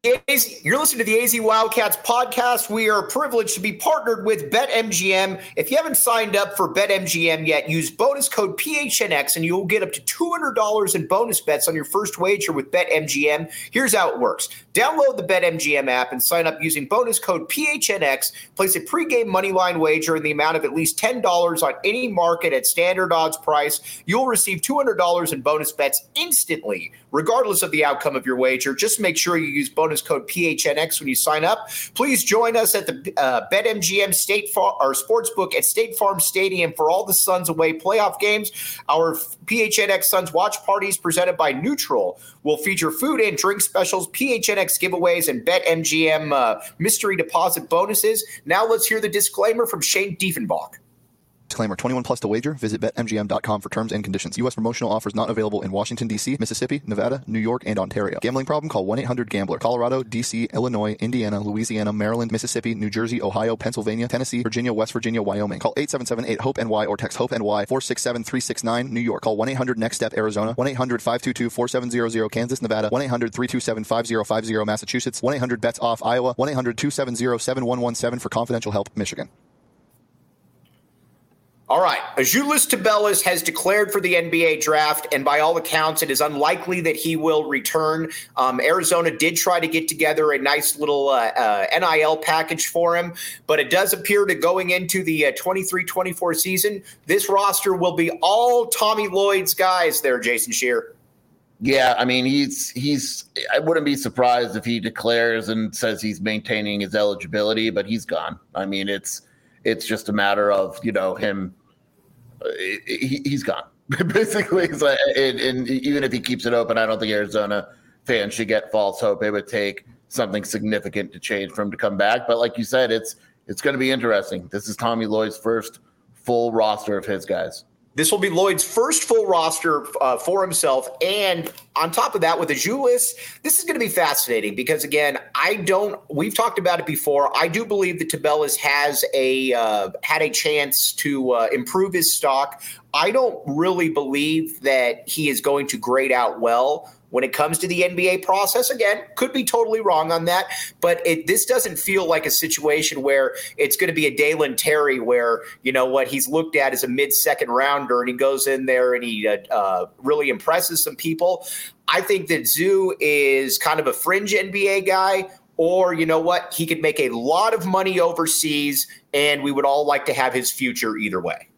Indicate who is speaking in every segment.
Speaker 1: You're listening to the AZ Wildcats podcast. We are privileged to be partnered with BetMGM. If you haven't signed up for BetMGM yet, use bonus code PHNX and you'll get up to $200 in bonus bets on your first wager with BetMGM. Here's how it works. Download the BetMGM app and sign up using bonus code PHNX. Place a pregame moneyline wager in the amount of at least $10 on any market at standard odds price. You'll receive $200 in bonus bets instantly, regardless of the outcome of your wager. Just make sure you use bonus code PHNX when you sign up. Please join us at the BetMGM Sportsbook at State Farm Stadium for all the Suns away playoff games. Our PHNX Suns watch parties presented by Neutral will feature food and drink specials, PHNX giveaways, and BetMGM mystery deposit bonuses. Now let's hear the disclaimer from Shane Diefenbach.
Speaker 2: Disclaimer, 21 plus to wager. Visit BetMGM.com for terms and conditions. U.S. promotional offers not available in Washington, D.C., Mississippi, Nevada, New York, and Ontario. Gambling problem? Call 1-800-GAMBLER. Colorado, D.C., Illinois, Indiana, Louisiana, Maryland, Mississippi, New Jersey, Ohio, Pennsylvania, Tennessee, Virginia, West Virginia, Wyoming. Call 877-8-HOPE-NY or text HOPE-NY 467-369, New York. Call 1-800-NEXT-STEP, Arizona. 1-800-522-4700, Kansas, Nevada. 1-800-327-5050, Massachusetts. 1-800-BETS-OFF, Iowa. 1-800-270-7117 for confidential help, Michigan.
Speaker 1: All right. Azuolas Tubelis has declared for the NBA draft, and by all accounts, it is unlikely that he will return. Arizona did try to get together a nice little NIL package for him, but it does appear that going into the 23-24 season, this roster will be all Tommy Lloyd's guys there, Jason Scheer.
Speaker 3: Yeah, I mean, he's. I wouldn't be surprised if he declares and says he's maintaining his eligibility, but he's gone. I mean, it's just a matter of, him. He's gone. Basically, it's like, and even if he keeps it open, I don't think Arizona fans should get false hope. It would take something significant to change for him to come back. But like you said, it's going to be interesting. This is Tommy Lloyd's first full roster of his guys.
Speaker 1: This will be Lloyd's first full roster for himself. And on top of that, with Azuolas, this is going to be fascinating because, again, we've talked about it before. I do believe that Tubelis has had a chance to improve his stock. I don't really believe that he is going to grade out well when it comes to the NBA process. Again, could be totally wrong on that, but this doesn't feel like a situation where it's going to be a Dalen Terry where, he's looked at as a mid-second rounder and he goes in there and he really impresses some people. I think that Zoo is kind of a fringe NBA guy, or he could make a lot of money overseas, and we would all like to have his future either way.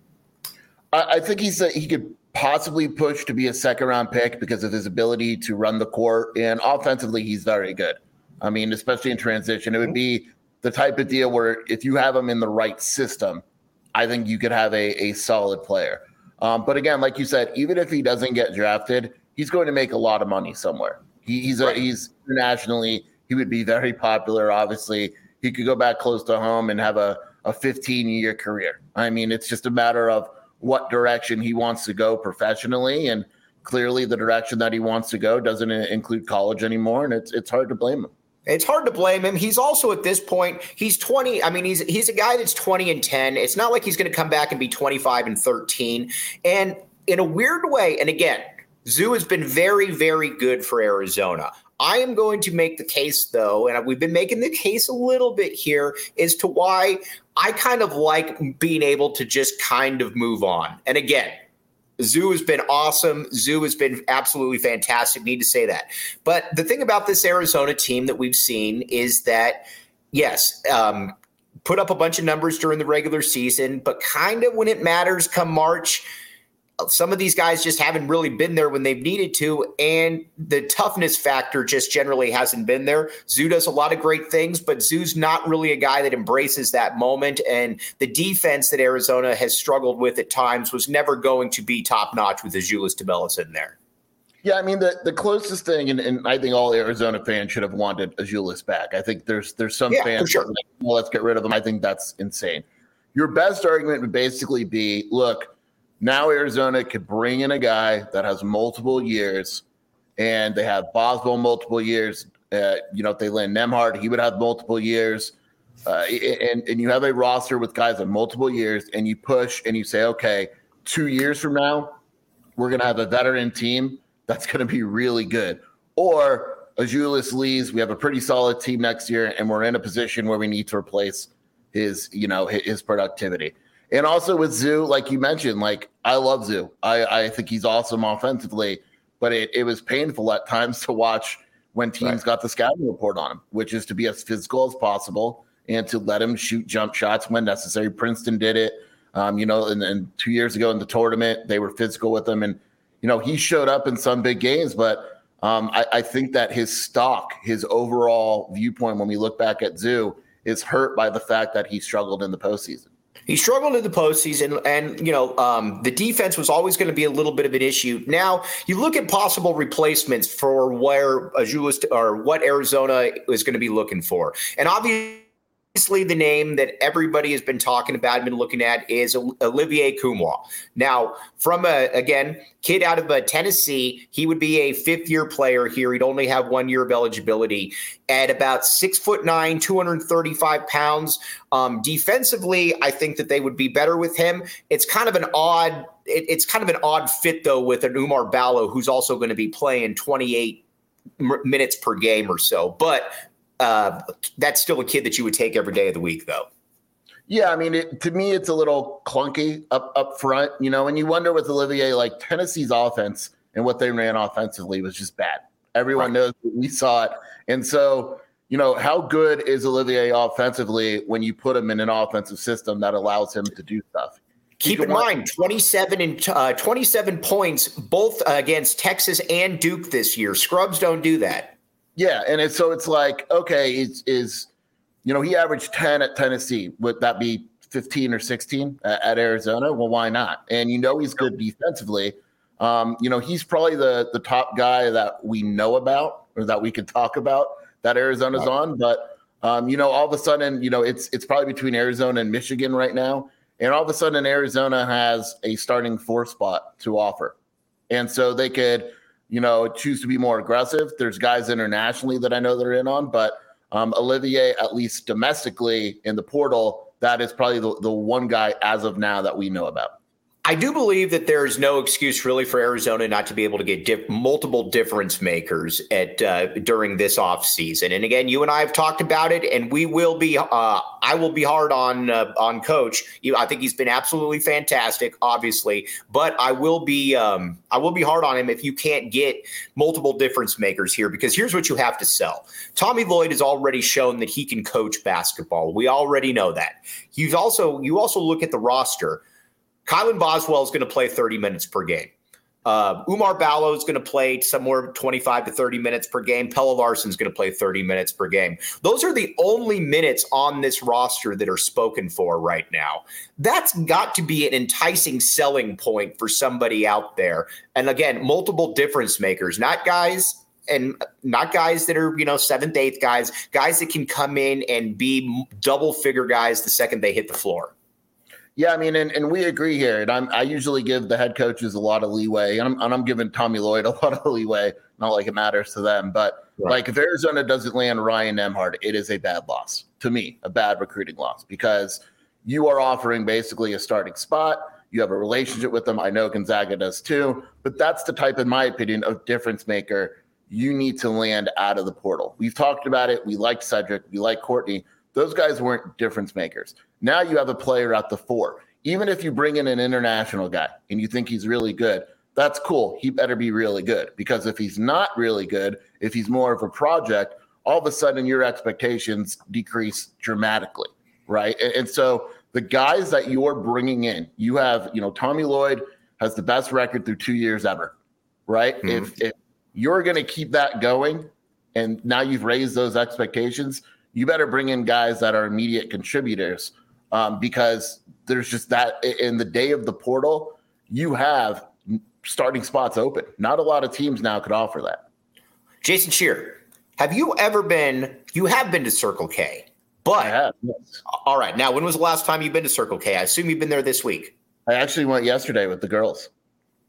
Speaker 3: I think he could possibly push to be a second-round pick because of his ability to run the court, and offensively, he's very good. I mean, especially in transition, it would be the type of deal where if you have him in the right system, I think you could have a solid player. But again, like you said, even if he doesn't get drafted, he's going to make a lot of money somewhere. He's internationally, he would be very popular. Obviously, he could go back close to home and have a 15-year career. I mean, it's just a matter of what direction he wants to go professionally, and clearly the direction that he wants to go doesn't include college anymore, and it's hard to blame him.
Speaker 1: It's hard to blame him. He's also at this point, he's 20. I mean, he's a guy that's 20-10. It's not like he's going to come back and be 25-13. And in a weird way, and again, Zoo has been very, very good for Arizona. I am going to make the case, though, and we've been making the case a little bit here, as to why I kind of like being able to just kind of move on. And again, Zoo has been awesome. Zoo has been absolutely fantastic. Need to say that. But the thing about this Arizona team that we've seen is that, yes, put up a bunch of numbers during the regular season, but kind of when it matters come March, some of these guys just haven't really been there when they've needed to, and the toughness factor just generally hasn't been there. Zoo does a lot of great things, but Zoo's not really a guy that embraces that moment, and the defense that Arizona has struggled with at times was never going to be top-notch with Azuolas Tubelis in there.
Speaker 3: Yeah, I mean, the closest thing, and I think all Arizona fans should have wanted Azuolas back. I think there's some fans that are like, well, let's get rid of him. I think that's insane. Your best argument would basically be, look, now Arizona could bring in a guy that has multiple years, and they have Boswell multiple years. If they land Nembhard, he would have multiple years. And you have a roster with guys of multiple years, and you push and you say, okay, 2 years from now, we're going to have a veteran team that's going to be really good. Or Azuolas leaves, we have a pretty solid team next year, and we're in a position where we need to replace his productivity. And also with Zoo, like you mentioned, like I love Zoo. I think he's awesome offensively, but it was painful at times to watch when teams got the scouting report on him, which is to be as physical as possible and to let him shoot jump shots when necessary. Princeton did it, and 2 years ago in the tournament, they were physical with him. And, he showed up in some big games, but I think that his stock, his overall viewpoint when we look back at Zoo is hurt by the fact that he struggled in the postseason.
Speaker 1: He struggled in the postseason, and the defense was always going to be a little bit of an issue. Now you look at possible replacements for where Azuolas or what Arizona is going to be looking for, and obviously the name that everybody has been talking about and been looking at is Olivier Nkamhoua. Now, from kid out of Tennessee, he would be a fifth-year player here. He'd only have 1 year of eligibility. At about 6'9", 235 pounds. Defensively, I think that they would be better with him. It's kind of an odd fit though with an Oumar Ballo, who's also going to be playing 28 minutes per game or so, but. That's still a kid that you would take every day of the week, though.
Speaker 3: Yeah, I mean, to me, it's a little clunky up front, and you wonder with Olivier, like Tennessee's offense and what they ran offensively was just bad. Everyone knows that we saw it. And so, how good is Olivier offensively when you put him in an offensive system that allows him to do stuff?
Speaker 1: Keep in mind, 27 points, both against Texas and Duke this year. Scrubs don't do that.
Speaker 3: Yeah, and it's like, okay, he averaged 10 at Tennessee. Would that be 15 or 16 at Arizona? Well, why not? And he's good defensively. He's probably the top guy that we know about or that we can talk about that Arizona's on. But, all of a sudden, it's probably between Arizona and Michigan right now. And all of a sudden, Arizona has a starting 4 spot to offer. And so they could – choose to be more aggressive. There's guys internationally that I know that are in on, but Olivier, at least domestically in the portal, that is probably the one guy as of now that we know about.
Speaker 1: I do believe that there is no excuse really for Arizona not to be able to get multiple difference makers during this offseason. And again, you and I have talked about it, and we will be. I will be hard on Coach. I think he's been absolutely fantastic, obviously, but I will be hard on him if you can't get multiple difference makers here, because here's what you have to sell. Tommy Lloyd has already shown that he can coach basketball. We already know that. You also look at the roster. Kylan Boswell is going to play 30 minutes per game. Oumar Ballo is going to play somewhere 25 to 30 minutes per game. Pelle Larsson is going to play 30 minutes per game. Those are the only minutes on this roster that are spoken for right now. That's got to be an enticing selling point for somebody out there. And again, multiple difference makers, not guys that are, seventh, eighth guys that can come in and be double figure guys the second they hit the floor.
Speaker 3: Yeah, I mean, and we agree here. And I usually give the head coaches a lot of leeway, and I'm giving Tommy Lloyd a lot of leeway. Not like it matters to them, but like if Arizona doesn't land Ryan Nembhard, it is a bad loss to me, a bad recruiting loss, because you are offering basically a starting spot. You have a relationship with them. I know Gonzaga does too, but that's the type, in my opinion, of difference maker you need to land out of the portal. We've talked about it. We liked Cedric. We like Courtney. Those guys weren't difference makers. Now you have a player at the 4. Even if you bring in an international guy and you think he's really good, that's cool. He better be really good, because if he's not really good, if he's more of a project, all of a sudden your expectations decrease dramatically, right? And so the guys that you're bringing in, you have, Tommy Lloyd has the best record through 2 years ever, right? Mm-hmm. If you're going to keep that going and now you've raised those expectations, you better bring in guys that are immediate contributors, because there's just that in the day of the portal, you have starting spots open. Not a lot of teams now could offer that.
Speaker 1: Jason Scheer, you have been to Circle K, but
Speaker 3: I have, yes.
Speaker 1: All right. Now, when was the last time you've been to Circle K? I assume you've been there this week.
Speaker 3: I actually went yesterday with the girls.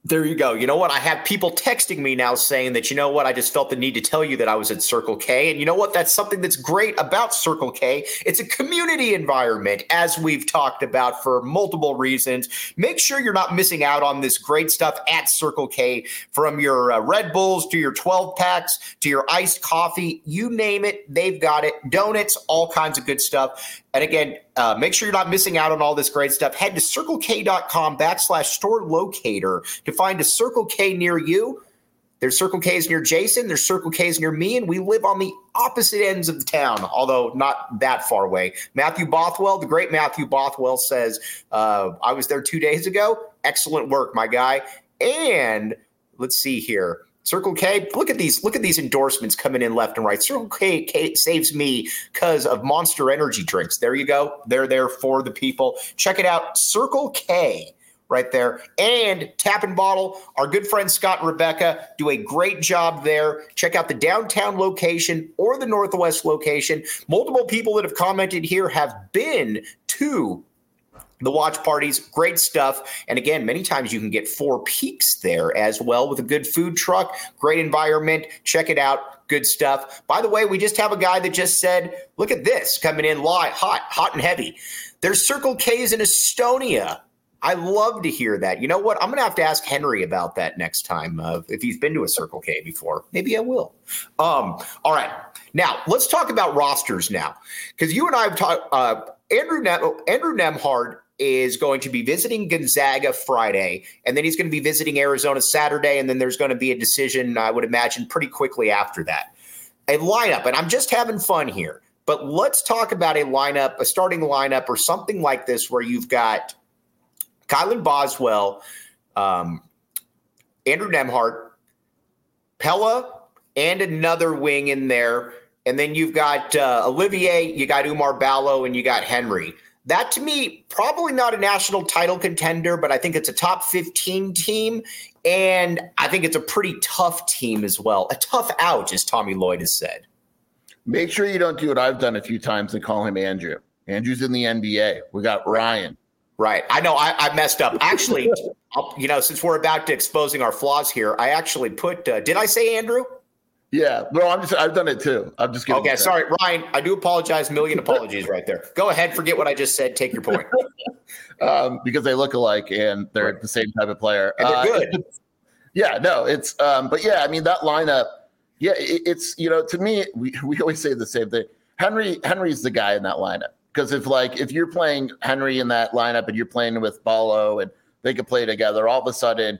Speaker 1: There you go. You know what? I have people texting me now saying that, you know what? I just felt the need to tell you that I was at Circle K. And you know what? That's something that's great about Circle K. It's a community environment, as we've talked about for multiple reasons. Make sure you're not missing out on this great stuff at Circle K, from your Red Bulls to your 12 packs to your iced coffee. You name it, they've got it. Donuts, all kinds of good stuff. And again, make sure you're not missing out on all this great stuff. Head to circlek.com/store locator to find a Circle K near you. There's Circle K's near Jason. There's Circle K's near me, and we live on the opposite ends of the town, although not that far away. Matthew Bothwell, the great Matthew Bothwell, says, I was there 2 days ago. Excellent work, my guy. And let's see here. Circle K, look at these endorsements coming in left and right. Circle K saves me because of Monster Energy drinks. There you go. They're there for the people. Check it out. Circle K right there. And Tap and Bottle, our good friends Scott and Rebecca do a great job there. Check out the downtown location or the northwest location. Multiple people that have commented here have been to the watch parties, great stuff. And again, many times you can get Four Peaks there as well with a good food truck, great environment. Check it out. Good stuff. By the way, we just have a guy that just said, look at this coming in live, hot and heavy. There's Circle K's in Estonia. I love to hear that. You know what? I'm going to have to ask Henry about that next time if he's been to a Circle K before. Maybe I will. All right. Now, let's talk about rosters now, because you and I have talked. Andrew Nembhard is going to be visiting Gonzaga Friday, and then he's going to be visiting Arizona Saturday, and then there's going to be a decision, I would imagine, pretty quickly after that. A lineup, and I'm just having fun here, but let's talk about a lineup, a starting lineup or something like this where you've got Kylan Boswell, Andrew Nembhard, Pella, and another wing in there, and then you've got Olivier, you got Umar Ballo, and you got Henry. That, to me, probably not a national title contender, but I think it's a top 15 team, and I think it's a pretty tough team as well. A tough out, as Tommy Lloyd has said.
Speaker 3: Make sure you don't do what I've done a few times and call him Andrew. Andrew's in the NBA. We got Ryan.
Speaker 1: Right. I know I messed up. Actually, since we're about to exposing our flaws here, I actually put did I say Andrew?
Speaker 3: Yeah, bro, I've done it too. I'm just kidding.
Speaker 1: Okay, sorry, Ryan. I do apologize. Million apologies right there. Go ahead. Forget what I just said. Take your point.
Speaker 3: Because they look alike and they're the same type of player.
Speaker 1: And they're good.
Speaker 3: Yeah, no, it's but yeah, I mean that lineup. Yeah, it's to me we always say the same thing. Henry's the guy in that lineup, because if you're playing Henry in that lineup and you're playing with Ballo and they can play together, all of a sudden.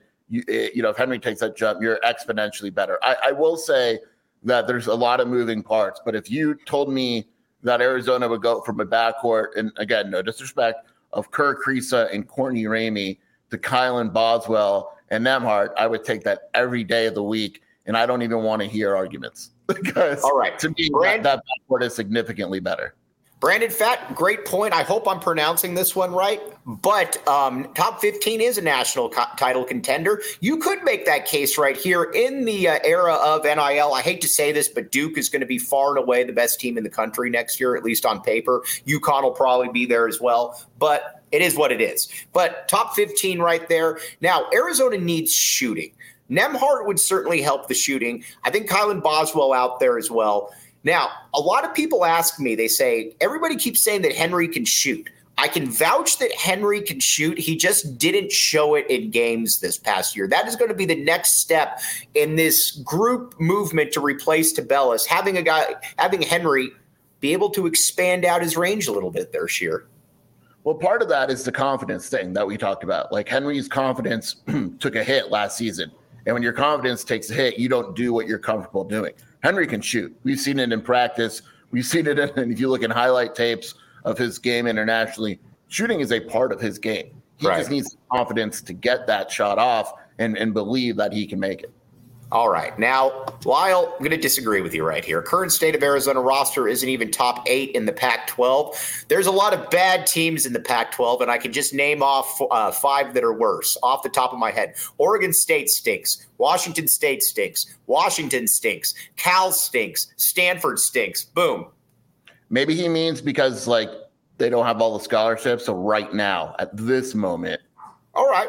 Speaker 3: If Henry takes that jump, you're exponentially better. I will say that there's a lot of moving parts, but if you told me that Arizona would go from a backcourt, and again, no disrespect, of Kerr Kriisa and Courtney Ramey to Kylan Boswell and Nembhard, I would take that every day of the week, and I don't even want to hear arguments. Because
Speaker 1: all right,
Speaker 3: to me, that backcourt is significantly better.
Speaker 1: Brandon Fat, great point. I hope I'm pronouncing this one right. But top 15 is a national title contender. You could make that case right here in the era of NIL. I hate to say this, but Duke is going to be far and away the best team in the country next year, at least on paper. UConn will probably be there as well. But it is what it is. But top 15 right there. Now, Arizona needs shooting. Nembhard would certainly help the shooting. I think Kylan Boswell out there as well. Now, a lot of people ask me, they say, everybody keeps saying that Henry can shoot. I can vouch that Henry can shoot. He just didn't show it in games this past year. That is going to be the next step in this group movement to replace Tabellis, having Henry be able to expand out his range a little bit there, Sheer.
Speaker 3: Well, part of that is the confidence thing that we talked about. Like Henry's confidence took a hit last season. And when your confidence takes a hit, you don't do what you're comfortable doing. Henry can shoot. We've seen it in practice. We've seen it if you look in highlight tapes of his game internationally, shooting is a part of his game. He just needs confidence to get that shot off and believe that he can make it.
Speaker 1: All right. Now, Lyle, I'm going to disagree with you right here. Current state of Arizona roster isn't even top 8 in the Pac-12. There's a lot of bad teams in the Pac-12, and I can just name off 5 that are worse off the top of my head. Oregon State stinks. Washington State stinks. Washington stinks. Cal stinks. Stanford stinks. Boom.
Speaker 3: Maybe he means because, they don't have all the scholarships. So right now, at this moment,
Speaker 1: All right.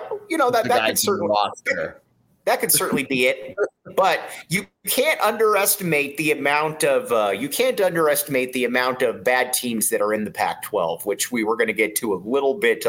Speaker 1: That could certainly be it. But you can't underestimate the amount of bad teams that are in the Pac-12, which we're going to get to a little bit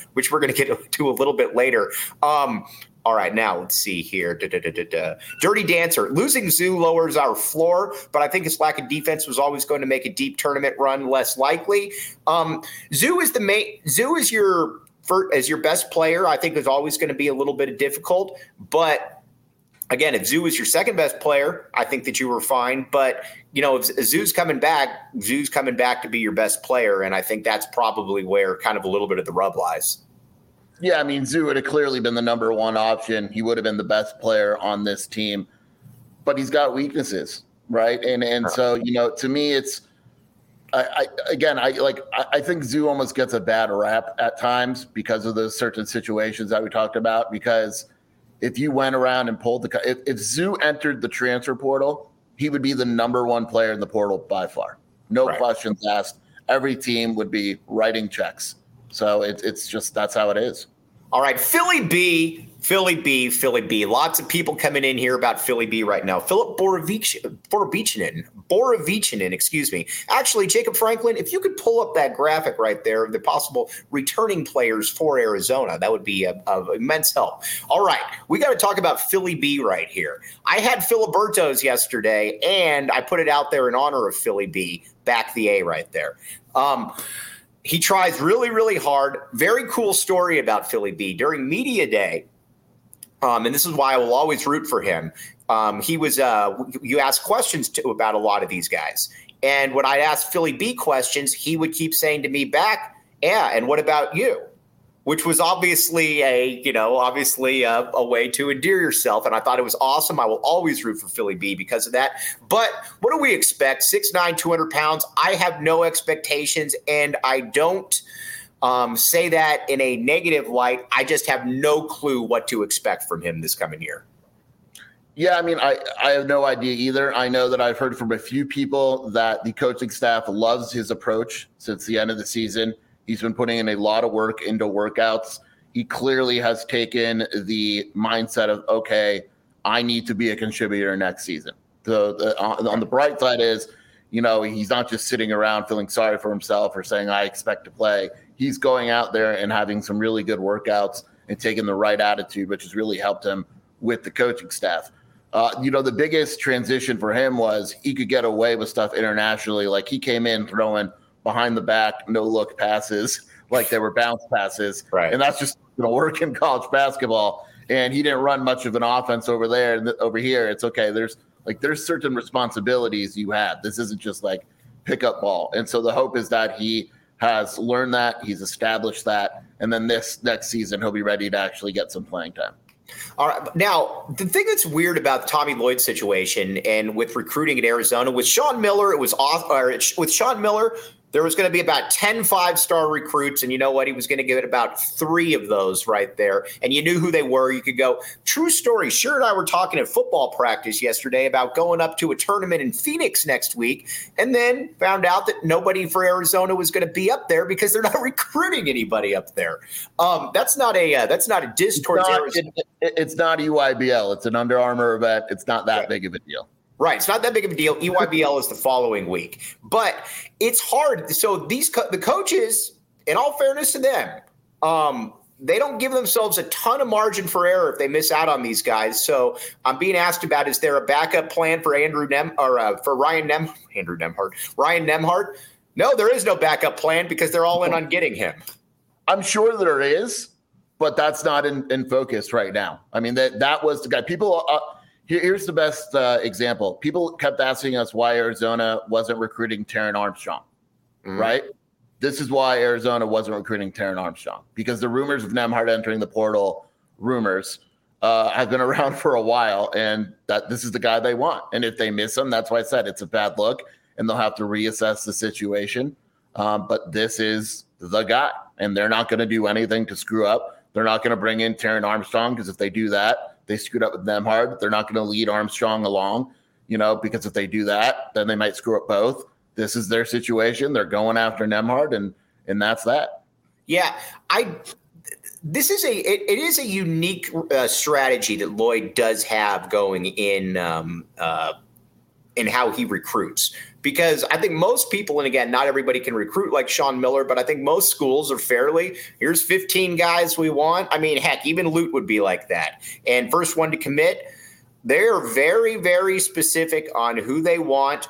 Speaker 1: later. All right, now let's see here. Dirty Dancer. Losing Zoo lowers our floor, but I think his lack of defense was always going to make a deep tournament run less likely. Zoo is your best player. I think is always going to be a little bit difficult, but again, if Zoo is your second best player, I think that you were fine. But, if Zoo's coming back to be your best player. And I think that's probably where kind of a little bit of the rub lies.
Speaker 3: Yeah, I mean, Zoo would have clearly been the number one option. He would have been the best player on this team. But he's got weaknesses, right? And so, to me, it's I think Zoo almost gets a bad rap at times because of those certain situations that we talked about, because if you went around and pulled if Zoo entered the transfer portal, he would be the number one player in the portal by far. No questions asked. Every team would be writing checks. So it's just, that's how it is.
Speaker 1: All right, Philly B. Lots of people coming in here about Philly B right now. Philip Borovichinen, excuse me. Actually, Jacob Franklin, if you could pull up that graphic right there of the possible returning players for Arizona, that would be of immense help. All right, we got to talk about Philly B right here. I had Filiberto's yesterday, and I put it out there in honor of Philly B. Back the A right there. He tries really, really hard. Very cool story about Philly B. During media day, and this is why I will always root for him. He was you ask questions about a lot of these guys. And when I asked Philly B questions, he would keep saying to me back, yeah, and what about you? Which was obviously a way to endear yourself. And I thought it was awesome. I will always root for Philly B because of that. But what do we expect? 6'9", 200 pounds. I have no expectations, and I don't say that in a negative light. I just have no clue what to expect from him this coming year.
Speaker 3: Yeah, I mean, I have no idea either. I know that I've heard from a few people that the coaching staff loves his approach since the end of the season. He's been putting in a lot of work into workouts. He clearly has taken the mindset of, okay, I need to be a contributor next season. So on the bright side is, he's not just sitting around feeling sorry for himself or saying, I expect to play. He's going out there and having some really good workouts and taking the right attitude, which has really helped him with the coaching staff. The biggest transition for him was he could get away with stuff internationally. Like he came in throwing behind the back, no look passes, like they were bounce passes.
Speaker 1: Right.
Speaker 3: And that's just going to work in college basketball. And he didn't run much of an offense over there. And over here, it's okay. There's certain responsibilities you have. This isn't just like pickup ball. And so the hope is that he has learned that, he's established that, and then this next season he'll be ready to actually get some playing time.
Speaker 1: All right. Now, the thing that's weird about the Tommy Lloyd situation and with recruiting at Arizona, with Sean Miller, with Sean Miller, there was going to be about 10 5-star recruits, and you know what? He was going to get about 3 of those right there, and you knew who they were. You could go. True story. Sher and I were talking at football practice yesterday about going up to a tournament in Phoenix next week, and then found out that nobody for Arizona was going to be up there because they're not recruiting anybody up there. That's not a diss towards Arizona.
Speaker 3: It's not EYBL. It's an Under Armour event. It's not that big of a deal.
Speaker 1: Right. It's not that big of a deal. EYBL is the following week. But it's hard. So the coaches, in all fairness to them, they don't give themselves a ton of margin for error if they miss out on these guys. So I'm being asked about, is there a backup plan for Ryan Nembhard? No, there is no backup plan because they're all in on getting him.
Speaker 3: I'm sure there is, but that's not in focus right now. I mean, that was the guy. People here's the best example. People kept asking us why Arizona wasn't recruiting Taron Armstrong, right? This is why Arizona wasn't recruiting Taron Armstrong, because the rumors of Nembhard entering the portal have been around for a while, and that this is the guy they want. And if they miss him, that's why I said it's a bad look, and they'll have to reassess the situation. But this is the guy, and they're not going to do anything to screw up. They're not going to bring in Taron Armstrong, because if they do that, they screwed up with Nembhard. They're not going to lead Armstrong along, because if they do that, then they might screw up both. This is their situation. They're going after Nembhard, and that's that.
Speaker 1: Yeah, this is it is a unique strategy that Lloyd does have going in how he recruits. Because I think most people, and again, not everybody can recruit like Sean Miller, but I think most schools are fairly, here's 15 guys we want. I mean, heck, even Lute would be like that. And first one to commit, they're very, very specific on who they want.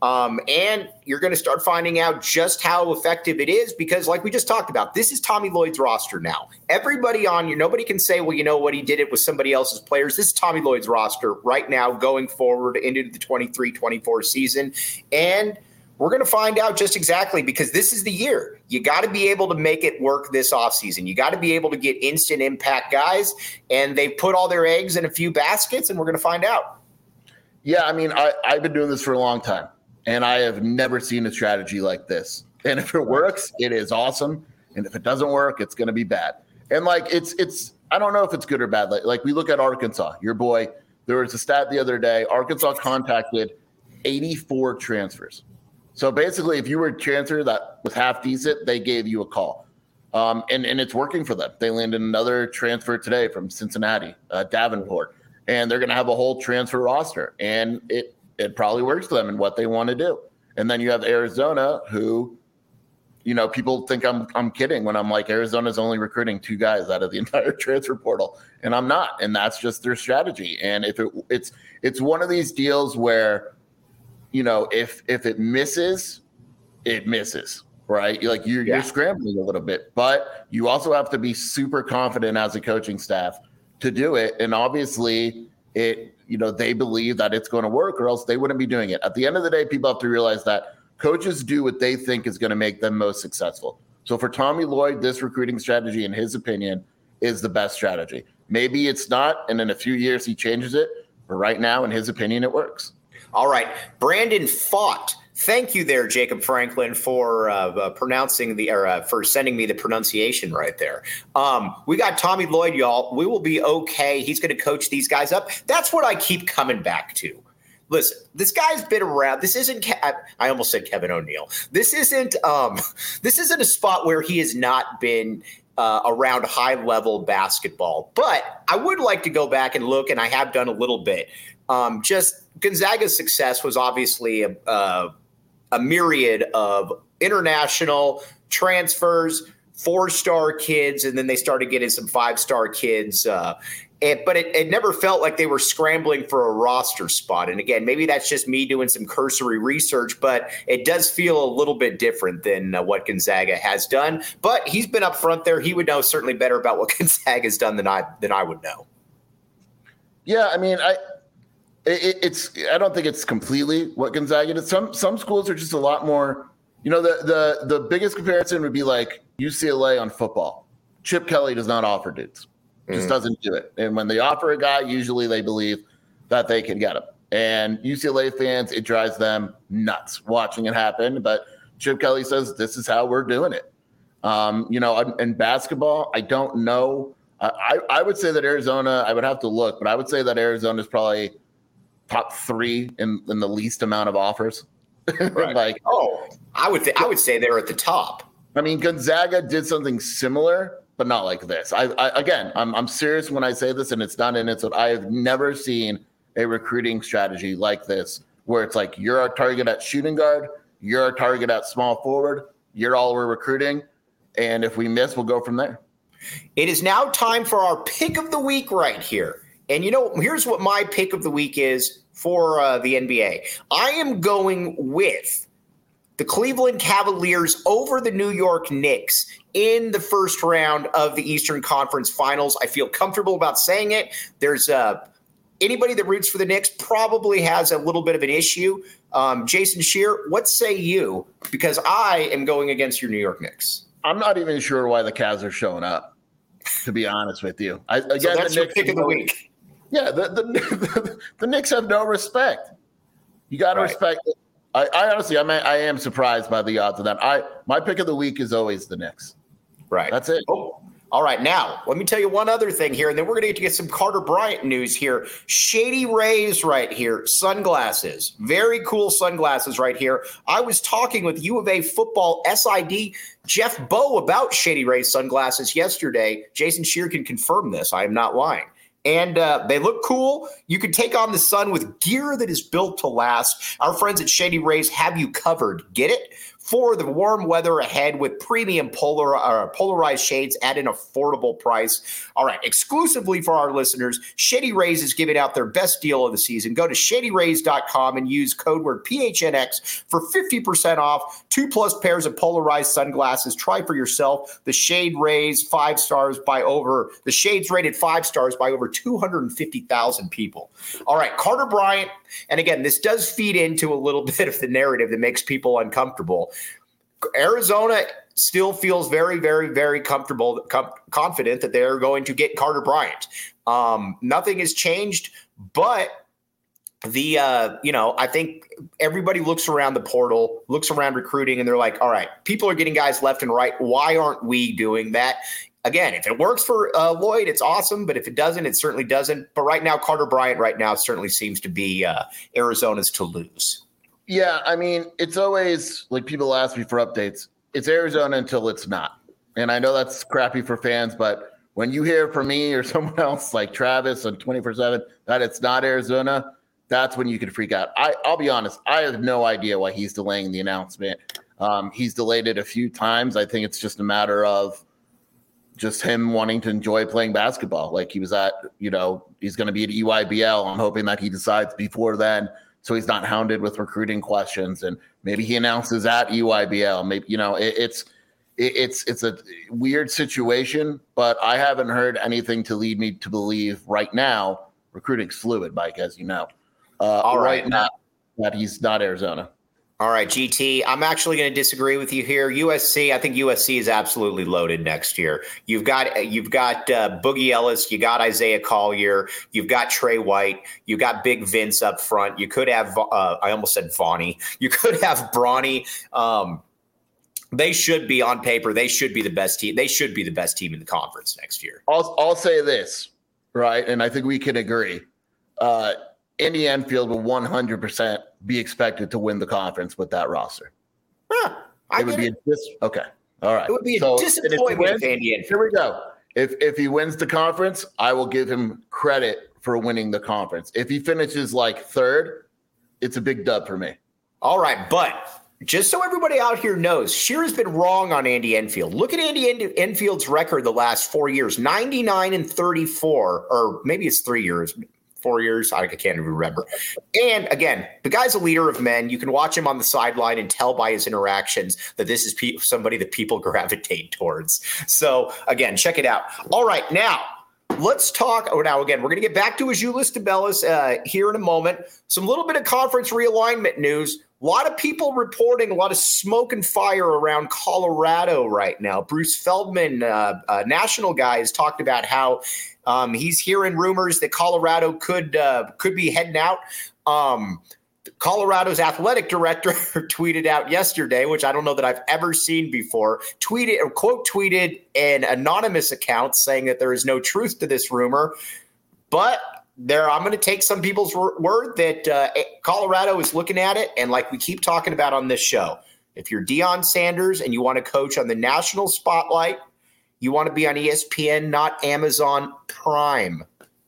Speaker 1: And you're going to start finding out just how effective it is because, like we just talked about, this is Tommy Lloyd's roster now. Everybody on you, nobody can say, well, you know what, he did it with somebody else's players. This is Tommy Lloyd's roster right now going forward into the 23-24 season. And we're going to find out just exactly because this is the year. You got to be able to make it work this offseason. You got to be able to get instant impact guys, and they put all their eggs in a few baskets, and we're going to find out.
Speaker 3: Yeah, I mean, I've been doing this for a long time. And I have never seen a strategy like this. And if it works, it is awesome. And if it doesn't work, it's going to be bad. And like, it's, I don't know if it's good or bad. Like we look at Arkansas, your boy, there was a stat the other day, Arkansas contacted 84 transfers. So basically, if you were a transfer that was half decent, they gave you a call. And it's working for them. They landed another transfer today from Cincinnati, Davenport, and they're going to have a whole transfer roster. And it probably works for them and what they want to do. And then you have Arizona who, you know, people think I'm kidding when I'm like, Arizona's only recruiting 2 guys out of the entire transfer portal. And I'm not. And that's just their strategy. And if it's one of these deals where, you know, if it misses, it misses, right? Like you're scrambling a little bit, but you also have to be super confident as a coaching staff to do it. And obviously they believe that it's going to work or else they wouldn't be doing it. At the end of the day, people have to realize that coaches do what they think is going to make them most successful. So for Tommy Lloyd, this recruiting strategy, in his opinion, is the best strategy. Maybe it's not, and in a few years he changes it. But right now, in his opinion, it works.
Speaker 1: All right. Brandon Fott. Thank you there, Jacob Franklin, for for sending me the pronunciation right there. We got Tommy Lloyd, y'all. We will be okay. He's going to coach these guys up. That's what I keep coming back to. Listen, this guy's been around. This isn't. I almost said Kevin O'Neill. This isn't a spot where he has not been around high-level basketball. But I would like to go back and look, and I have done a little bit. Just Gonzaga's success was obviously a myriad of international transfers, 4-star kids, and then they started getting some 5-star kids. But it never felt like they were scrambling for a roster spot. And again, maybe that's just me doing some cursory research, but it does feel a little bit different than what Gonzaga has done. But he's been up front there. He would know certainly better about what Gonzaga has done than I would know.
Speaker 3: Yeah, I mean, I don't think it's completely what Gonzaga did. Some schools are just a lot more, you know, the biggest comparison would be like UCLA on football. Chip Kelly does not offer dudes. Just doesn't do it. And when they offer a guy, usually they believe that they can get him. And UCLA fans, it drives them nuts watching it happen. But Chip Kelly says, this is how we're doing it. In basketball, I don't know. I would say that Arizona, I would have to look, but I would say that Arizona is probably top 3 in the least amount of offers.
Speaker 1: Right. I would say they're at the top.
Speaker 3: I mean, Gonzaga did something similar, but not like this. I'm serious when I say this, and it's not in it. So I have never seen a recruiting strategy like this, where it's like you're our target at shooting guard, you're our target at small forward, you're all we're recruiting, and if we miss, we'll go from there.
Speaker 1: It is now time for our pick of the week right here. And, here's what my pick of the week is for the NBA. I am going with the Cleveland Cavaliers over the New York Knicks in the first round of the Eastern Conference Finals. I feel comfortable about saying it. There's anybody that roots for the Knicks probably has a little bit of an issue. Jason Scheer, what say you? Because I am going against your New York Knicks.
Speaker 3: I'm not even sure why the Cavs are showing up, to be honest with you.
Speaker 1: So that's your pick of the week.
Speaker 3: Yeah, the Knicks have no respect. You got to respect it. I honestly, I am surprised by the odds of that. My pick of the week is always the Knicks.
Speaker 1: Right.
Speaker 3: That's it.
Speaker 1: Oh, All right, now let me tell you one other thing here, and then we're going to get some Carter Bryant news here. Shady Rays right here, sunglasses, very cool sunglasses right here. I was talking with U of A football SID Jeff Bowe about Shady Rays sunglasses yesterday. Jason Scheer can confirm this. I am not lying. And they look cool. You can take on the sun with gear that is built to last. Our friends at Shady Rays have you covered. Get it? For the warm weather ahead with premium polarized shades at an affordable price. All right, exclusively for our listeners, Shady Rays is giving out their best deal of the season. Go to shadyrays.com and use code word PHNX for 50% off. 2+ pairs of polarized sunglasses. Try for yourself. The Shade Rays 5 stars by over the shades rated 5 stars by over 250,000 people. All right, Carter Bryant. And again, this does feed into a little bit of the narrative that makes people uncomfortable. Arizona still feels very, very, very comfortable, confident that they're going to get Carter Bryant. Nothing has changed, but I think everybody looks around the portal, looks around recruiting, and they're like, all right, people are getting guys left and right. Why aren't we doing that? Again, if it works for Lloyd, it's awesome. But if it doesn't, it certainly doesn't. But right now, Carter Bryant right now certainly seems to be Arizona's to lose.
Speaker 3: Yeah, I mean, it's always like people ask me for updates. It's Arizona until it's not. And I know that's crappy for fans, but when you hear from me or someone else like Travis on 24/7 that it's not Arizona, that's when you can freak out. I'll be honest, I have no idea why he's delaying the announcement. He's delayed it a few times. I think it's just a matter of just him wanting to enjoy playing basketball. Like he was at, he's going to be at EYBL. I'm hoping that he decides before then, so he's not hounded with recruiting questions. And maybe he announces at EYBL. Maybe, it's a weird situation, but I haven't heard anything to lead me to believe right now recruiting's fluid, Mike, as you know.
Speaker 1: All right.
Speaker 3: Now that he's not Arizona.
Speaker 1: All right, GT, I'm actually going to disagree with you here. USC, I think USC is absolutely loaded next year. You've got Boogie Ellis, you got Isaiah Collier, you've got Trey White, you got Big Vince up front. You could have I almost said Vonnie. You could have Bronny. They should be on paper. They should be the best team. They should be the best team in the conference next year.
Speaker 3: I'll say this, right, and I think we can agree. Indy Enfield will 100% be expected to win the conference with that roster.
Speaker 1: Okay.
Speaker 3: All right.
Speaker 1: It would be a disappointment if Indy Enfield.
Speaker 3: Here we go. If he wins the conference, I will give him credit for winning the conference. If he finishes like third, it's a big dub for me. All
Speaker 1: right, but just so everybody out here knows, Scheer has been wrong on Andy Enfield. Look at Andy Enfield's record the last 4 years, 99-34, or maybe it's 3 years. 4 years. I can't even remember. And again, the guy's a leader of men. You can watch him on the sideline and tell by his interactions that this is somebody that people gravitate towards. So again, check it out. All right. Now let's talk. Now, again, we're going to get back to Azuolas Tubelis here in a moment. Some little bit of conference realignment news. A lot of people reporting a lot of smoke and fire around Colorado right now. Bruce Feldman, a national guy, has talked about how he's hearing rumors that Colorado could be heading out. Colorado's athletic director tweeted out yesterday, which I don't know that I've ever seen before, tweeted an anonymous account saying that there is no truth to this rumor. But I'm going to take some people's word that Colorado is looking at it. And like we keep talking about on this show, if you're Deion Sanders and you want to coach on the national spotlight, you want to be on ESPN, not Amazon Prime.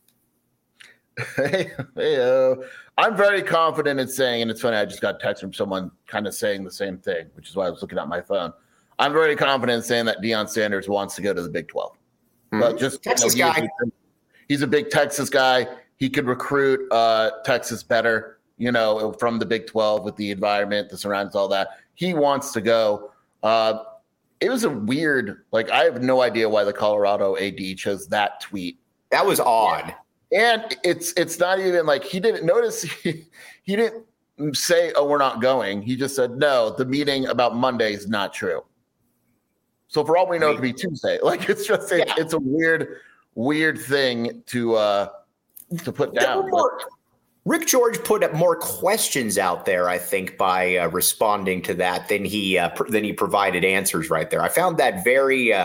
Speaker 3: I'm very confident in saying, and it's funny, I just got a text from someone kind of saying the same thing, which is why I was looking at my phone. I'm very confident in saying that Deion Sanders wants to go to the Big 12.
Speaker 1: Mm-hmm. But just Texas guy.
Speaker 3: He's a big Texas guy. He could recruit Texas better, from the Big 12 with the environment, the surroundings, all that. He wants to go. It was a weird, I have no idea why the Colorado AD chose that tweet.
Speaker 1: That was odd.
Speaker 3: And it's not even he didn't notice. He didn't say, "Oh, we're not going." He just said, "No, the meeting about Monday is not true." So for all we know, it could be Tuesday. It's a weird thing to put down.
Speaker 1: Rick George put up more questions out there, I think, by responding to that than he provided answers right there. I found that very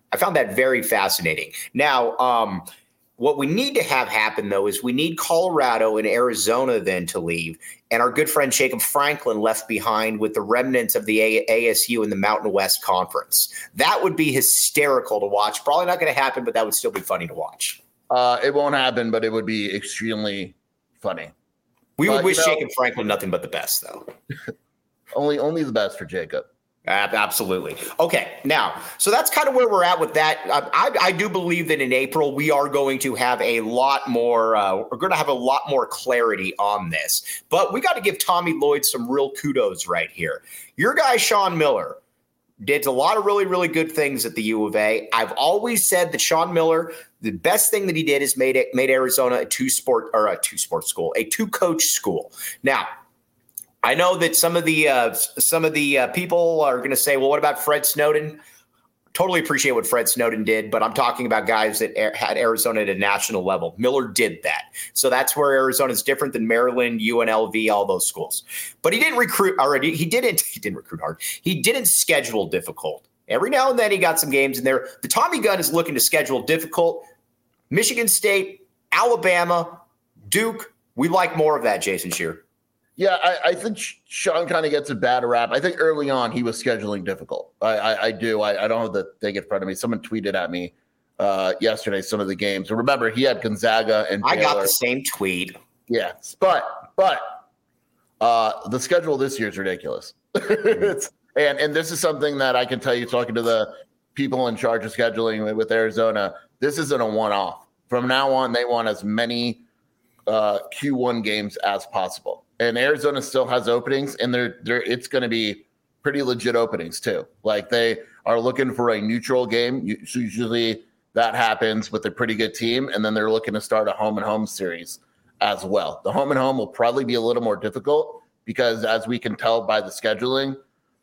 Speaker 1: I found that very fascinating. Now, what we need to have happen, though, is we need Colorado and Arizona then to leave, and our good friend Jacob Franklin left behind with the remnants of the ASU in the Mountain West Conference. That would be hysterical to watch. Probably not going to happen, but that would still be funny to watch.
Speaker 3: It won't happen, but it would be extremely funny.
Speaker 1: We would wish Jacob Franklin nothing but the best, though.
Speaker 3: only the best for Jacob.
Speaker 1: Absolutely. Okay. Now, so that's kind of where we're at with that. I do believe that in April, we are going to have a lot more, we're going to have a lot more clarity on this, but we got to give Tommy Lloyd some real kudos right here. Your guy, Sean Miller, did a lot of really, really good things at the U of A. I've always said that Sean Miller, the best thing that he did is made Arizona a two-coach school. Now, I know that some of the people are going to say, well, what about Fred Snowden? Totally appreciate what Fred Snowden did, but I'm talking about guys that had Arizona at a national level. Miller did that. So that's where Arizona is different than Maryland, UNLV, all those schools. But he didn't recruit already. He didn't recruit hard. He didn't schedule difficult. Every now and then he got some games in there. The Tommy gun is looking to schedule difficult. Michigan State, Alabama, Duke. We like more of that, Jason Scheer.
Speaker 3: Yeah, I think Sean kind of gets a bad rap. I think early on he was scheduling difficult. I do. I don't have the thing in front of me. Someone tweeted at me yesterday some of the games. And remember, he had Gonzaga and Baylor.
Speaker 1: I got the same tweet.
Speaker 3: Yeah, but the schedule this year is ridiculous. and this is something that I can tell you, talking to the people in charge of scheduling with Arizona, this isn't a one-off. From now on, they want as many Q1 games as possible. And Arizona still has openings, and it's going to be pretty legit openings too. Like, they are looking for a neutral game. Usually that happens with a pretty good team, and then they're looking to start a home and home series as well. The home and home will probably be a little more difficult because, as we can tell by the scheduling,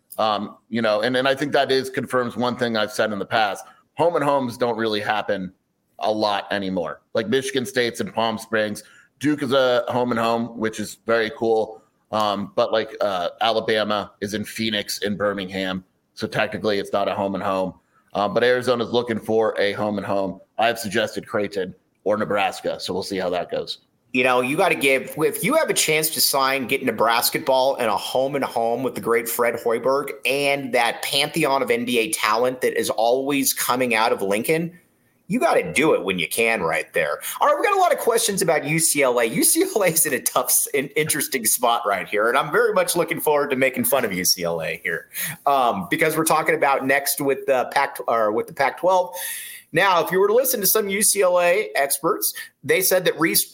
Speaker 3: and I think that confirms one thing I've said in the past. Home and homes don't really happen a lot anymore. Like Michigan State's in Palm Springs. Duke is a home and home, which is very cool. But like Alabama is in Phoenix, in Birmingham. So technically it's not a home and home. But Arizona's looking for a home and home. I've suggested Creighton or Nebraska. So we'll see how that goes.
Speaker 1: You know, you got to if you have a chance to get into basketball and a home with the great Fred Hoiberg and that pantheon of NBA talent that is always coming out of Lincoln, you got to do it when you can right there. All right, we got a lot of questions about UCLA. UCLA is in a tough and interesting spot right here, and I'm very much looking forward to making fun of UCLA here because we're talking about next with the Pac-12. Now, if you were to listen to some UCLA experts, they said that Reese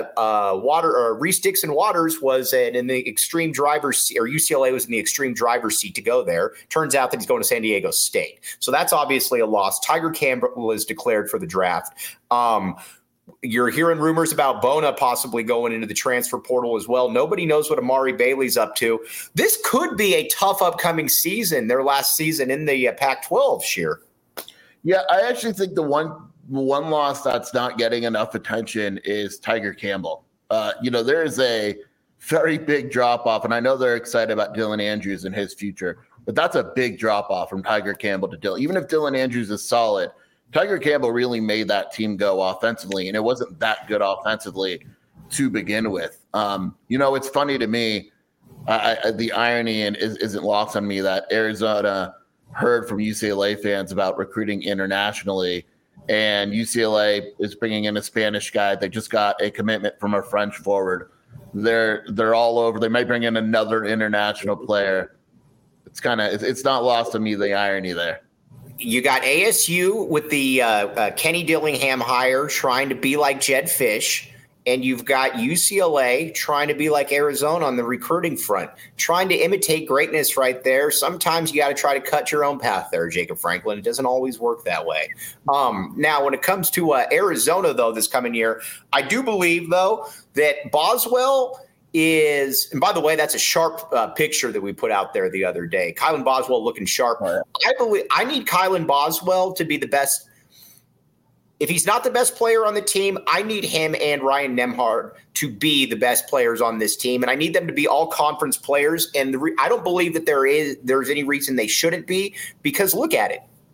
Speaker 1: Dixon Waters was in the extreme driver's seat, or UCLA was in the extreme driver's seat to go there. Turns out that he's going to San Diego State. So that's obviously a loss. Tiger Campbell is declared for the draft. You're hearing rumors about Bona possibly going into the transfer portal as well. Nobody knows what Amari Bailey's up to. This could be a tough upcoming season, their last season in the Pac-12, Scheer.
Speaker 3: Yeah, I actually think the one loss that's not getting enough attention is Tiger Campbell. There is a very big drop-off, and I know they're excited about Dylan Andrews and his future, but that's a big drop-off from Tiger Campbell to Dylan. Even if Dylan Andrews is solid, Tiger Campbell really made that team go offensively, and it wasn't that good offensively to begin with. It's funny to me, the irony and isn't lost on me that Arizona – heard from UCLA fans about recruiting internationally, and UCLA is bringing in a Spanish guy. They just got a commitment from a French forward. They're all over. They might bring in another international player. It's not lost on me, the irony there.
Speaker 1: You got ASU with the Kenny Dillingham hire trying to be like Jedd Fisch. And you've got UCLA trying to be like Arizona on the recruiting front, trying to imitate greatness right there. Sometimes you got to try to cut your own path there, Jacob Franklin. It doesn't always work that way. Now, when it comes to Arizona, though, this coming year, I do believe, though, that Boswell is – and by the way, that's a sharp picture that we put out there the other day. Kylan Boswell looking sharp. I need Kylan Boswell to be the best – if he's not the best player on the team, I need him and Ryan Nembhard to be the best players on this team, and I need them to be all conference players. And I don't believe that there's any reason they shouldn't be, because look at it.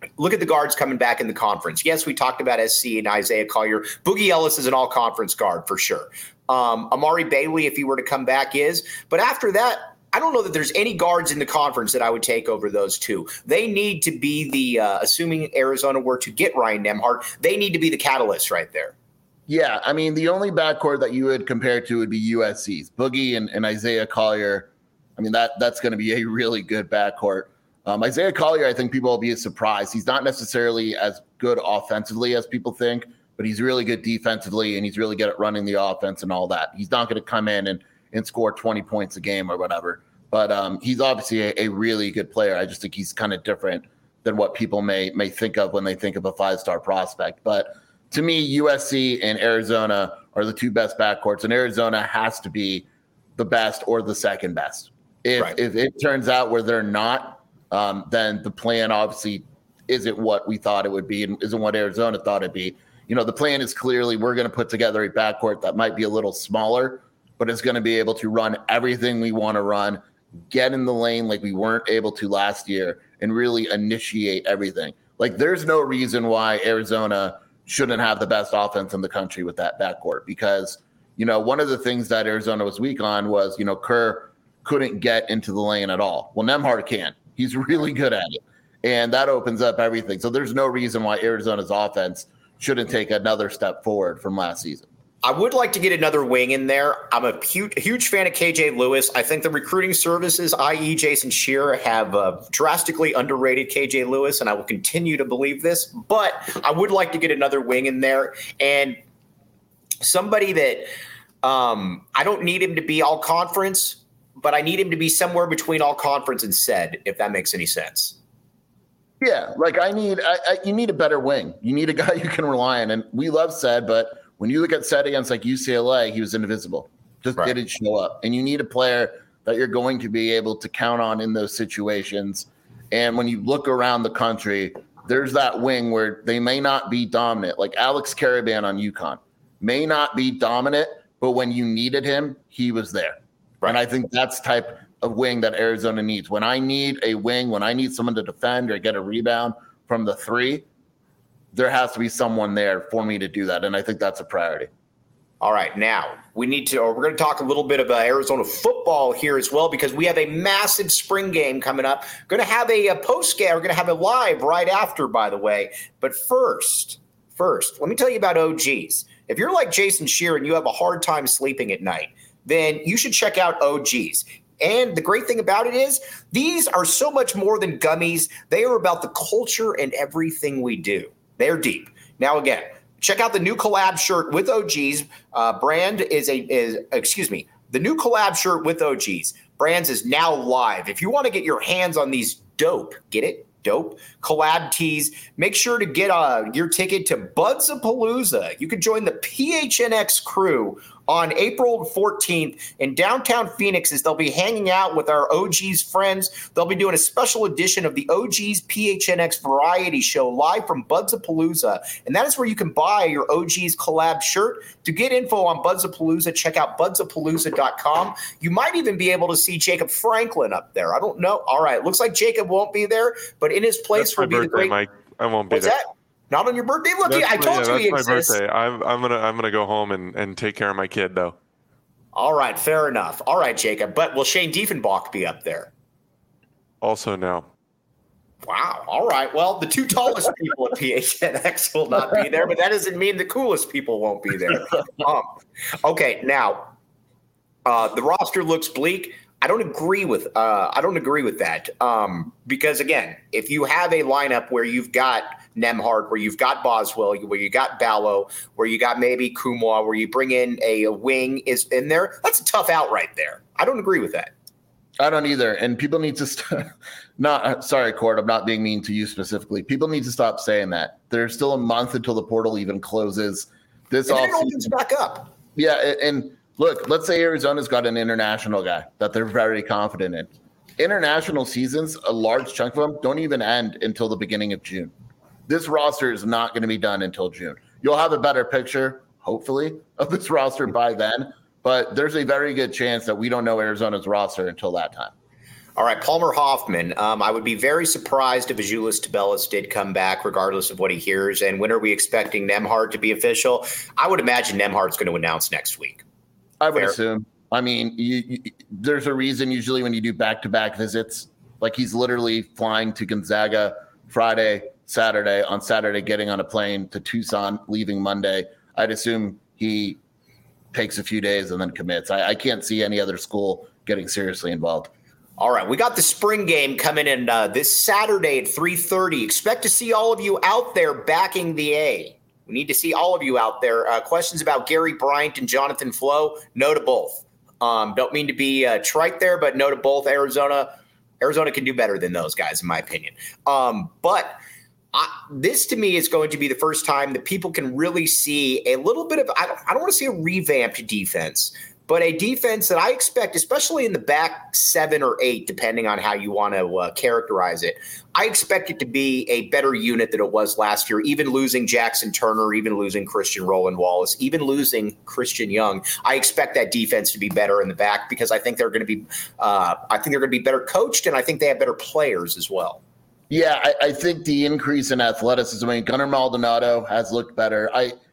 Speaker 1: Look at the guards coming back in the conference. Yes, we talked about SC and Isaiah Collier. Boogie Ellis is an all-conference guard for sure. Amari Bailey, if he were to come back, is. But after that, I don't know that there's any guards in the conference that I would take over those two. They need to be the, assuming Arizona were to get Ryan Nembhard, they need to be the catalyst right there.
Speaker 3: Yeah, I mean, the only backcourt that you would compare to would be USC's. Boogie and Isaiah Collier, I mean, that's going to be a really good backcourt. Isaiah Collier, I think people will be surprised. He's not necessarily as good offensively as people think, but he's really good defensively, and he's really good at running the offense and all that. He's not going to come in and score 20 points a game or whatever. But he's obviously a really good player. I just think he's kind of different than what people may think of when they think of a 5-star prospect. But to me, USC and Arizona are the two best backcourts, and Arizona has to be the best or the second best. If it turns out where they're not, then the plan obviously isn't what we thought it would be and isn't what Arizona thought it'd be. You know, the plan is clearly we're going to put together a backcourt that might be a little smaller, but it's going to be able to run everything we want to run, get in the lane like we weren't able to last year, and really initiate everything. Like, there's no reason why Arizona shouldn't have the best offense in the country with that backcourt, because, you know, one of the things that Arizona was weak on was, you know, Kerr couldn't get into the lane at all. Well, Nembhard can. He's really good at it, and that opens up everything. So there's no reason why Arizona's offense shouldn't take another step forward from last season.
Speaker 1: I would like to get another wing in there. I'm a huge fan of KJ Lewis. I think the recruiting services, i.e. Jason Scheer, have drastically underrated KJ Lewis, and I will continue to believe this. But I would like to get another wing in there, and somebody that I don't need him to be all conference, but I need him to be somewhere between all conference and said, if that makes any sense.
Speaker 3: Yeah, like you need a better wing. You need a guy you can rely on. And we love said, but when you look at said against like UCLA, he was invisible. Just didn't show up. And you need a player that you're going to be able to count on in those situations. And when you look around the country, there's that wing where they may not be dominant. Like Alex Caravan on UConn may not be dominant, but when you needed him, he was there. Right. And I think that's type of wing that Arizona needs. When I need a wing, when I need someone to defend or get a rebound from the three, there has to be someone there for me to do that. And I think that's a priority.
Speaker 1: All right. Now we're going to talk a little bit about Arizona football here as well, because we have a massive spring game coming up. Going to have a post game. We're going to have a live right after, by the way. But first, let me tell you about OGs. If you're like Jason Scheer and you have a hard time sleeping at night, then you should check out OGs. And the great thing about it is these are so much more than gummies. They are about the culture and everything we do. They're deep. Now, again, check out the new collab shirt with OGs. The new collab shirt with OGs. Brands is now live. If you want to get your hands on these dope collab tees, make sure to get your ticket to Budsapalooza. You can join the PHNX crew on April 14th in downtown Phoenix, as they'll be hanging out with our OGs friends. They'll be doing a special edition of the OGs PHNX variety show live from Budsapalooza. And that is where you can buy your OGs collab shirt. To get info on Budsapalooza, check out budsapalooza.com. You might even be able to see Jacob Franklin up there. I don't know. All right. Looks like Jacob won't be there, but in his place will be the great.
Speaker 4: Mike. I won't be there.
Speaker 1: That? Not on your birthday? Look, I told you he exists.
Speaker 4: That's my birthday. I'm gonna go home and take care of my kid, though.
Speaker 1: All right, fair enough. All right, Jacob. But will Shane Diefenbach be up there?
Speaker 4: Also, no.
Speaker 1: Wow. All right. Well, the two tallest people at PHNX will not be there, but that doesn't mean the coolest people won't be there. Okay. Now, the roster looks bleak. I don't agree with that. Because again, if you have a lineup where you've got Nembhard, where you've got Boswell, where you got Ballo, where you got maybe Kumwa, where you bring in a wing is in there, that's a tough out right there. I don't agree with that.
Speaker 3: I don't either. And people need to sorry, Cord, I'm not being mean to you specifically. People need to stop saying that. There's still a month until the portal even closes. This
Speaker 1: and then it opens back up.
Speaker 3: Yeah, and look, let's say Arizona's got an international guy that they're very confident in. International seasons, a large chunk of them don't even end until the beginning of June. This roster is not going to be done until June. You'll have a better picture, hopefully, of this roster by then, but there's a very good chance that we don't know Arizona's roster until that time.
Speaker 1: All right, Palmer Hoffman. I would be very surprised if Azuolas Tubelis did come back, regardless of what he hears. And when are we expecting Nembhard to be official? I would imagine Nembhard's going to announce next week.
Speaker 3: I would assume. I mean, there's a reason usually when you do back-to-back visits, like he's literally flying to Gonzaga Friday, Saturday, on Saturday getting on a plane to Tucson, leaving Monday. I'd assume he takes a few days and then commits. I can't see any other school getting seriously involved.
Speaker 1: All right, we got the spring game coming in this Saturday at 3:30. Expect to see all of you out there backing the A. We need to see all of you out there. Questions about Gary Bryant and Jonathan Flo? No to both. Don't mean to be trite there, but no to both. Arizona can do better than those guys, in my opinion. But this, to me, is going to be the first time that people can really see a little bit of – I don't want to say a revamped defense, but a defense that I expect, especially in the back 7 or 8, depending on how you want to characterize it, I expect it to be a better unit than it was last year, even losing Jackson Turner, even losing Christian Roland Wallace, even losing Christian Young. I expect that defense to be better in the back because I think they're going to be better coached, and I think they have better players as well.
Speaker 3: Yeah, I think the increase in athleticism. I mean, Gunnar Maldonado has looked better.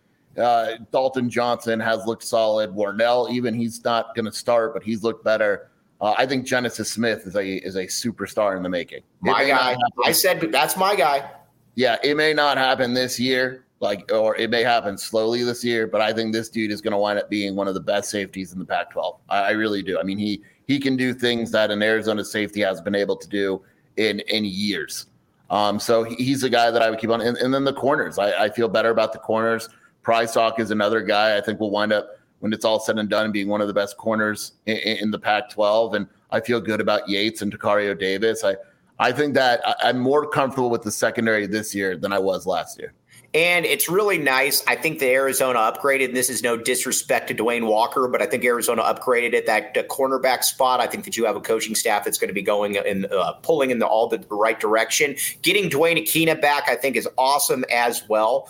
Speaker 3: Dalton Johnson has looked solid. Warnell, even he's not going to start, but he's looked better. I think Genesis Smith is a superstar in the making.
Speaker 1: My guy. I said that's my guy.
Speaker 3: Yeah, it may not happen this year, or it may happen slowly this year, but I think this dude is going to wind up being one of the best safeties in the Pac-12. I really do. I mean, he can do things that an Arizona safety has been able to do in years. So he's a guy that I would keep on. And then the corners. I feel better about the corners. Prysock is another guy I think will wind up, when it's all said and done, being one of the best corners in the Pac-12. And I feel good about Yates and Takario Davis. I think that I'm more comfortable with the secondary this year than I was last year.
Speaker 1: And it's really nice. I think the Arizona upgraded, and this is no disrespect to Dwayne Walker, but I think Arizona upgraded at that cornerback spot. I think that you have a coaching staff that's going to be going and pulling in all the right direction. Getting Dwayne Akina back, I think, is awesome as well.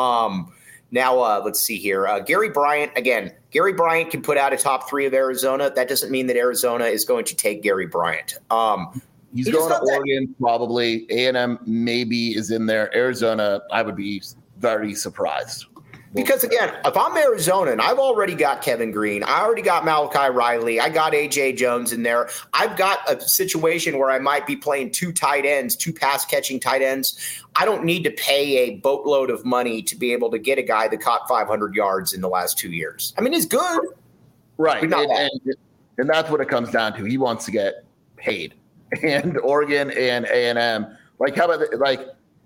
Speaker 1: Now, let's see here. Gary Bryant, again, Gary Bryant can put out a top 3 of Arizona. That doesn't mean that Arizona is going to take Gary Bryant.
Speaker 3: He's going to Oregon, probably. A&M maybe is in there. Arizona, I would be very surprised.
Speaker 1: Because, again, if I'm Arizona and I've already got Kevin Green, I already got Malachi Riley, I got A.J. Jones in there, I've got a situation where I might be playing 2 tight ends, 2 pass-catching tight ends. I don't need to pay a boatload of money to be able to get a guy that caught 500 yards in the last 2 years. I mean, he's good.
Speaker 3: Right, and that's what it comes down to. He wants to get paid. And Oregon and A&M, how about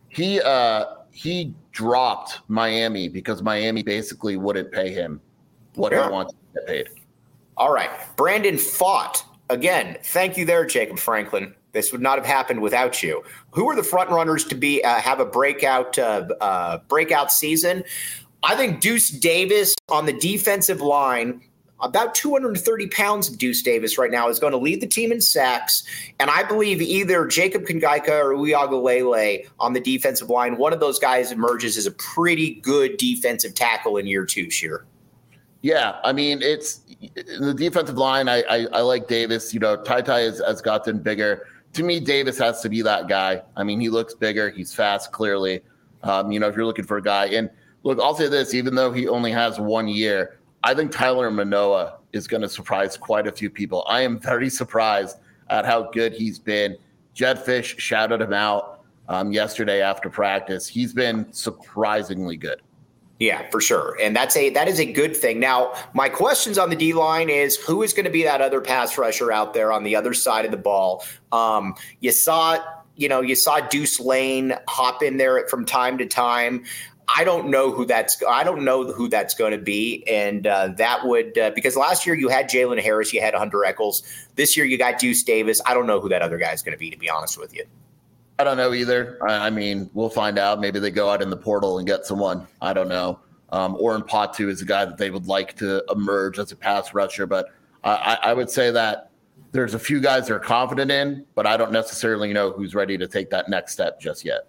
Speaker 3: he dropped Miami because Miami basically wouldn't pay him what he wants to get paid.
Speaker 1: All right. Brandon Fott. Again, thank you there, Jacob Franklin. This would not have happened without you. Who are the front runners to have a breakout season? I think Deuce Davis on the defensive line, about 230 pounds of Deuce Davis right now, is going to lead the team in sacks. And I believe either Jacob Kongaika or Uiagalelei on the defensive line, one of those guys emerges as a pretty good defensive tackle in year 2, Sheer.
Speaker 3: Yeah, I mean, it's the defensive line. I like Davis. Ty has gotten bigger. To me, Davis has to be that guy. I mean, he looks bigger. He's fast, clearly. If you're looking for a guy. And look, I'll say this, even though he only has 1 year, I think Tyler Manoa is going to surprise quite a few people. I am very surprised at how good he's been. Jed Fish shouted him out yesterday after practice. He's been surprisingly good.
Speaker 1: Yeah, for sure. And that is a good thing. Now, my questions on the D-line is who is going to be that other pass rusher out there on the other side of the ball? You saw Deuce Lane hop in there from time to time. I don't know who that's going to be, and that would because last year you had Jalen Harris, you had Hunter Echols. This year you got Deuce Davis. I don't know who that other guy is going to be honest with you.
Speaker 3: I don't know either. I mean, we'll find out. Maybe they go out in the portal and get someone. I don't know. Oren Patu is a guy that they would like to emerge as a pass rusher, but I would say that there's a few guys they're confident in, but I don't necessarily know who's ready to take that next step just yet.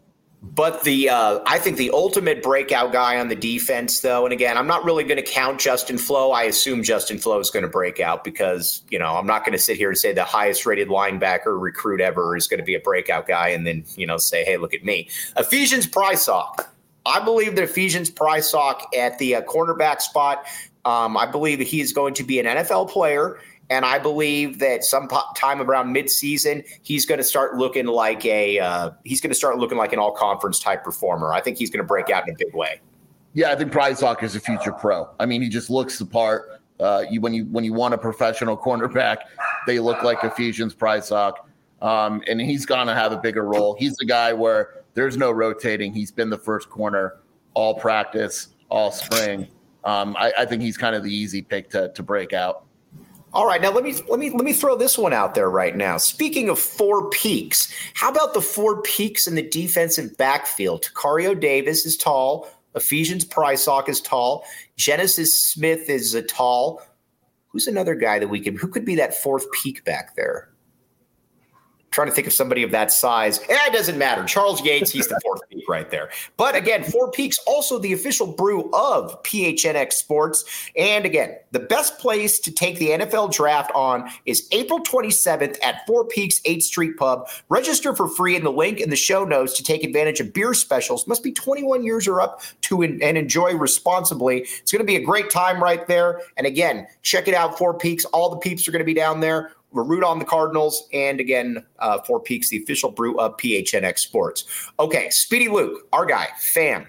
Speaker 1: But I think the ultimate breakout guy on the defense, though, and again, I'm not really going to count Justin Flo. I assume Justin Flo is going to break out because, I'm not going to sit here and say the highest rated linebacker recruit ever is going to be a breakout guy and then, say, hey, look at me. Ephesians Prysock. I believe that Ephesians Prysock at the cornerback spot, I believe that he is going to be an NFL player. And I believe that sometime around midseason, he's going to start looking like an all-conference type performer. I think he's going to break out in a big way.
Speaker 3: Yeah, I think Prysock is a future pro. I mean, he just looks the part. When you want a professional cornerback, they look like Ephesians Prysock, and he's going to have a bigger role. He's the guy where there's no rotating. He's been the first corner all practice, all spring. I think he's kind of the easy pick to break out.
Speaker 1: All right, now let me throw this one out there right now. Speaking of four peaks, how about the four peaks in the defensive backfield? Takario Davis is tall. Ephesians Prysock is tall. Genesis Smith is tall. Who's another guy who could be that fourth peak back there? Trying to think of somebody of that size. It doesn't matter. Charles Yates, he's the fourth peak right there. But again, Four Peaks, also the official brew of PHNX Sports. And again, the best place to take the NFL draft on is April 27th at Four Peaks 8th Street Pub. Register for free in the link in the show notes to take advantage of beer specials. Must be 21 years or up and enjoy responsibly. It's going to be a great time right there. And again, check it out, Four Peaks. All the peeps are going to be down there. We're root on the Cardinals, and again, Four Peaks, the official brew of PHNX Sports. Okay, Speedy Luke, our guy, fan.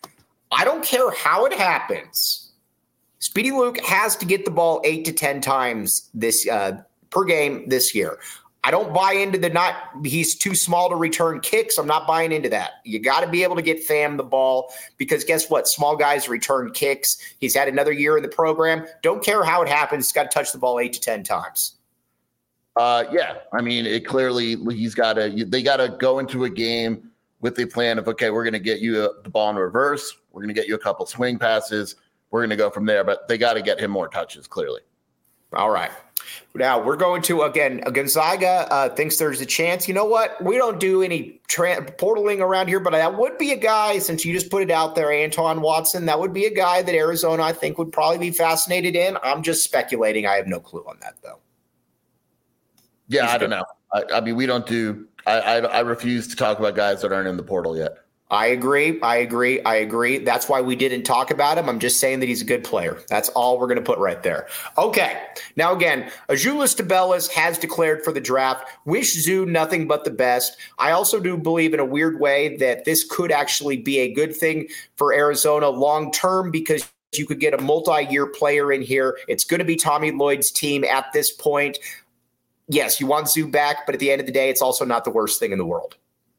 Speaker 1: I don't care how it happens. Speedy Luke has to get the ball 8 to 10 times this per game this year. I don't buy into he's too small to return kicks. I'm not buying into that. You got to be able to get Fam the ball because guess what? Small guys return kicks. He's had another year in the program. Don't care how it happens. He's got to touch the ball 8 to 10 times.
Speaker 3: Yeah, I mean, they got to go into a game with the plan of, okay, we're going to get you the ball in reverse. We're going to get you a couple swing passes. We're going to go from there, but they got to get him more touches, clearly.
Speaker 1: All right. Now we're going to, again, Gonzaga thinks there's a chance. You know what? We don't do any portaling around here, but that would be a guy, since you just put it out there, Anton Watson, that would be a guy that Arizona, I think, would probably be fascinated in. I'm just speculating. I have no clue on that, though.
Speaker 3: Yeah, I don't know. I mean, we don't do – I refuse to talk about guys that aren't in the portal yet.
Speaker 1: I agree. That's why we didn't talk about him. I'm just saying that he's a good player. That's all we're going to put right there. Okay. Now, again, Azuolas Tubelis has declared for the draft. Wish Zoo nothing but the best. I also do believe in a weird way that this could actually be a good thing for Arizona long term because you could get a multi-year player in here. It's going to be Tommy Lloyd's team at this point. Yes, you want Zoo back, but at the end of the day, it's also not the worst thing in the world.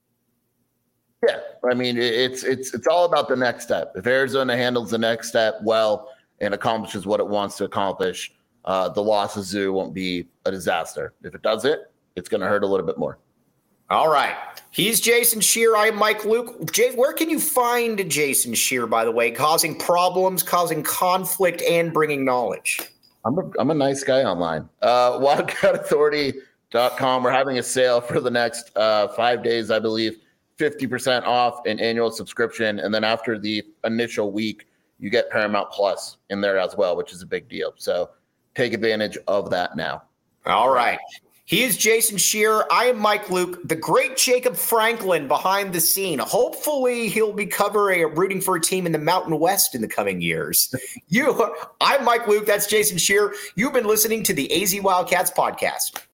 Speaker 3: Yeah, I mean, it's all about the next step. If Arizona handles the next step well and accomplishes what it wants to accomplish, the loss of Zoo won't be a disaster. If it does it's going to hurt a little bit more.
Speaker 1: All right. He's Jason Scheer. I am Mike Luke. Jay, where can you find Jason Scheer, by the way, causing problems, causing conflict, and bringing knowledge?
Speaker 3: I'm a nice guy online. WildcatAuthority.com. We're having a sale for the next 5 days, I believe. 50% off an annual subscription. And then after the initial week, you get Paramount Plus in there as well, which is a big deal. So take advantage of that now.
Speaker 1: All right. He is Jason Scheer. I am Mike Luke, the great Jacob Franklin behind the scene. Hopefully he'll be rooting for a team in the Mountain West in the coming years. I'm Mike Luke. That's Jason Scheer. You've been listening to the AZ Wildcats podcast.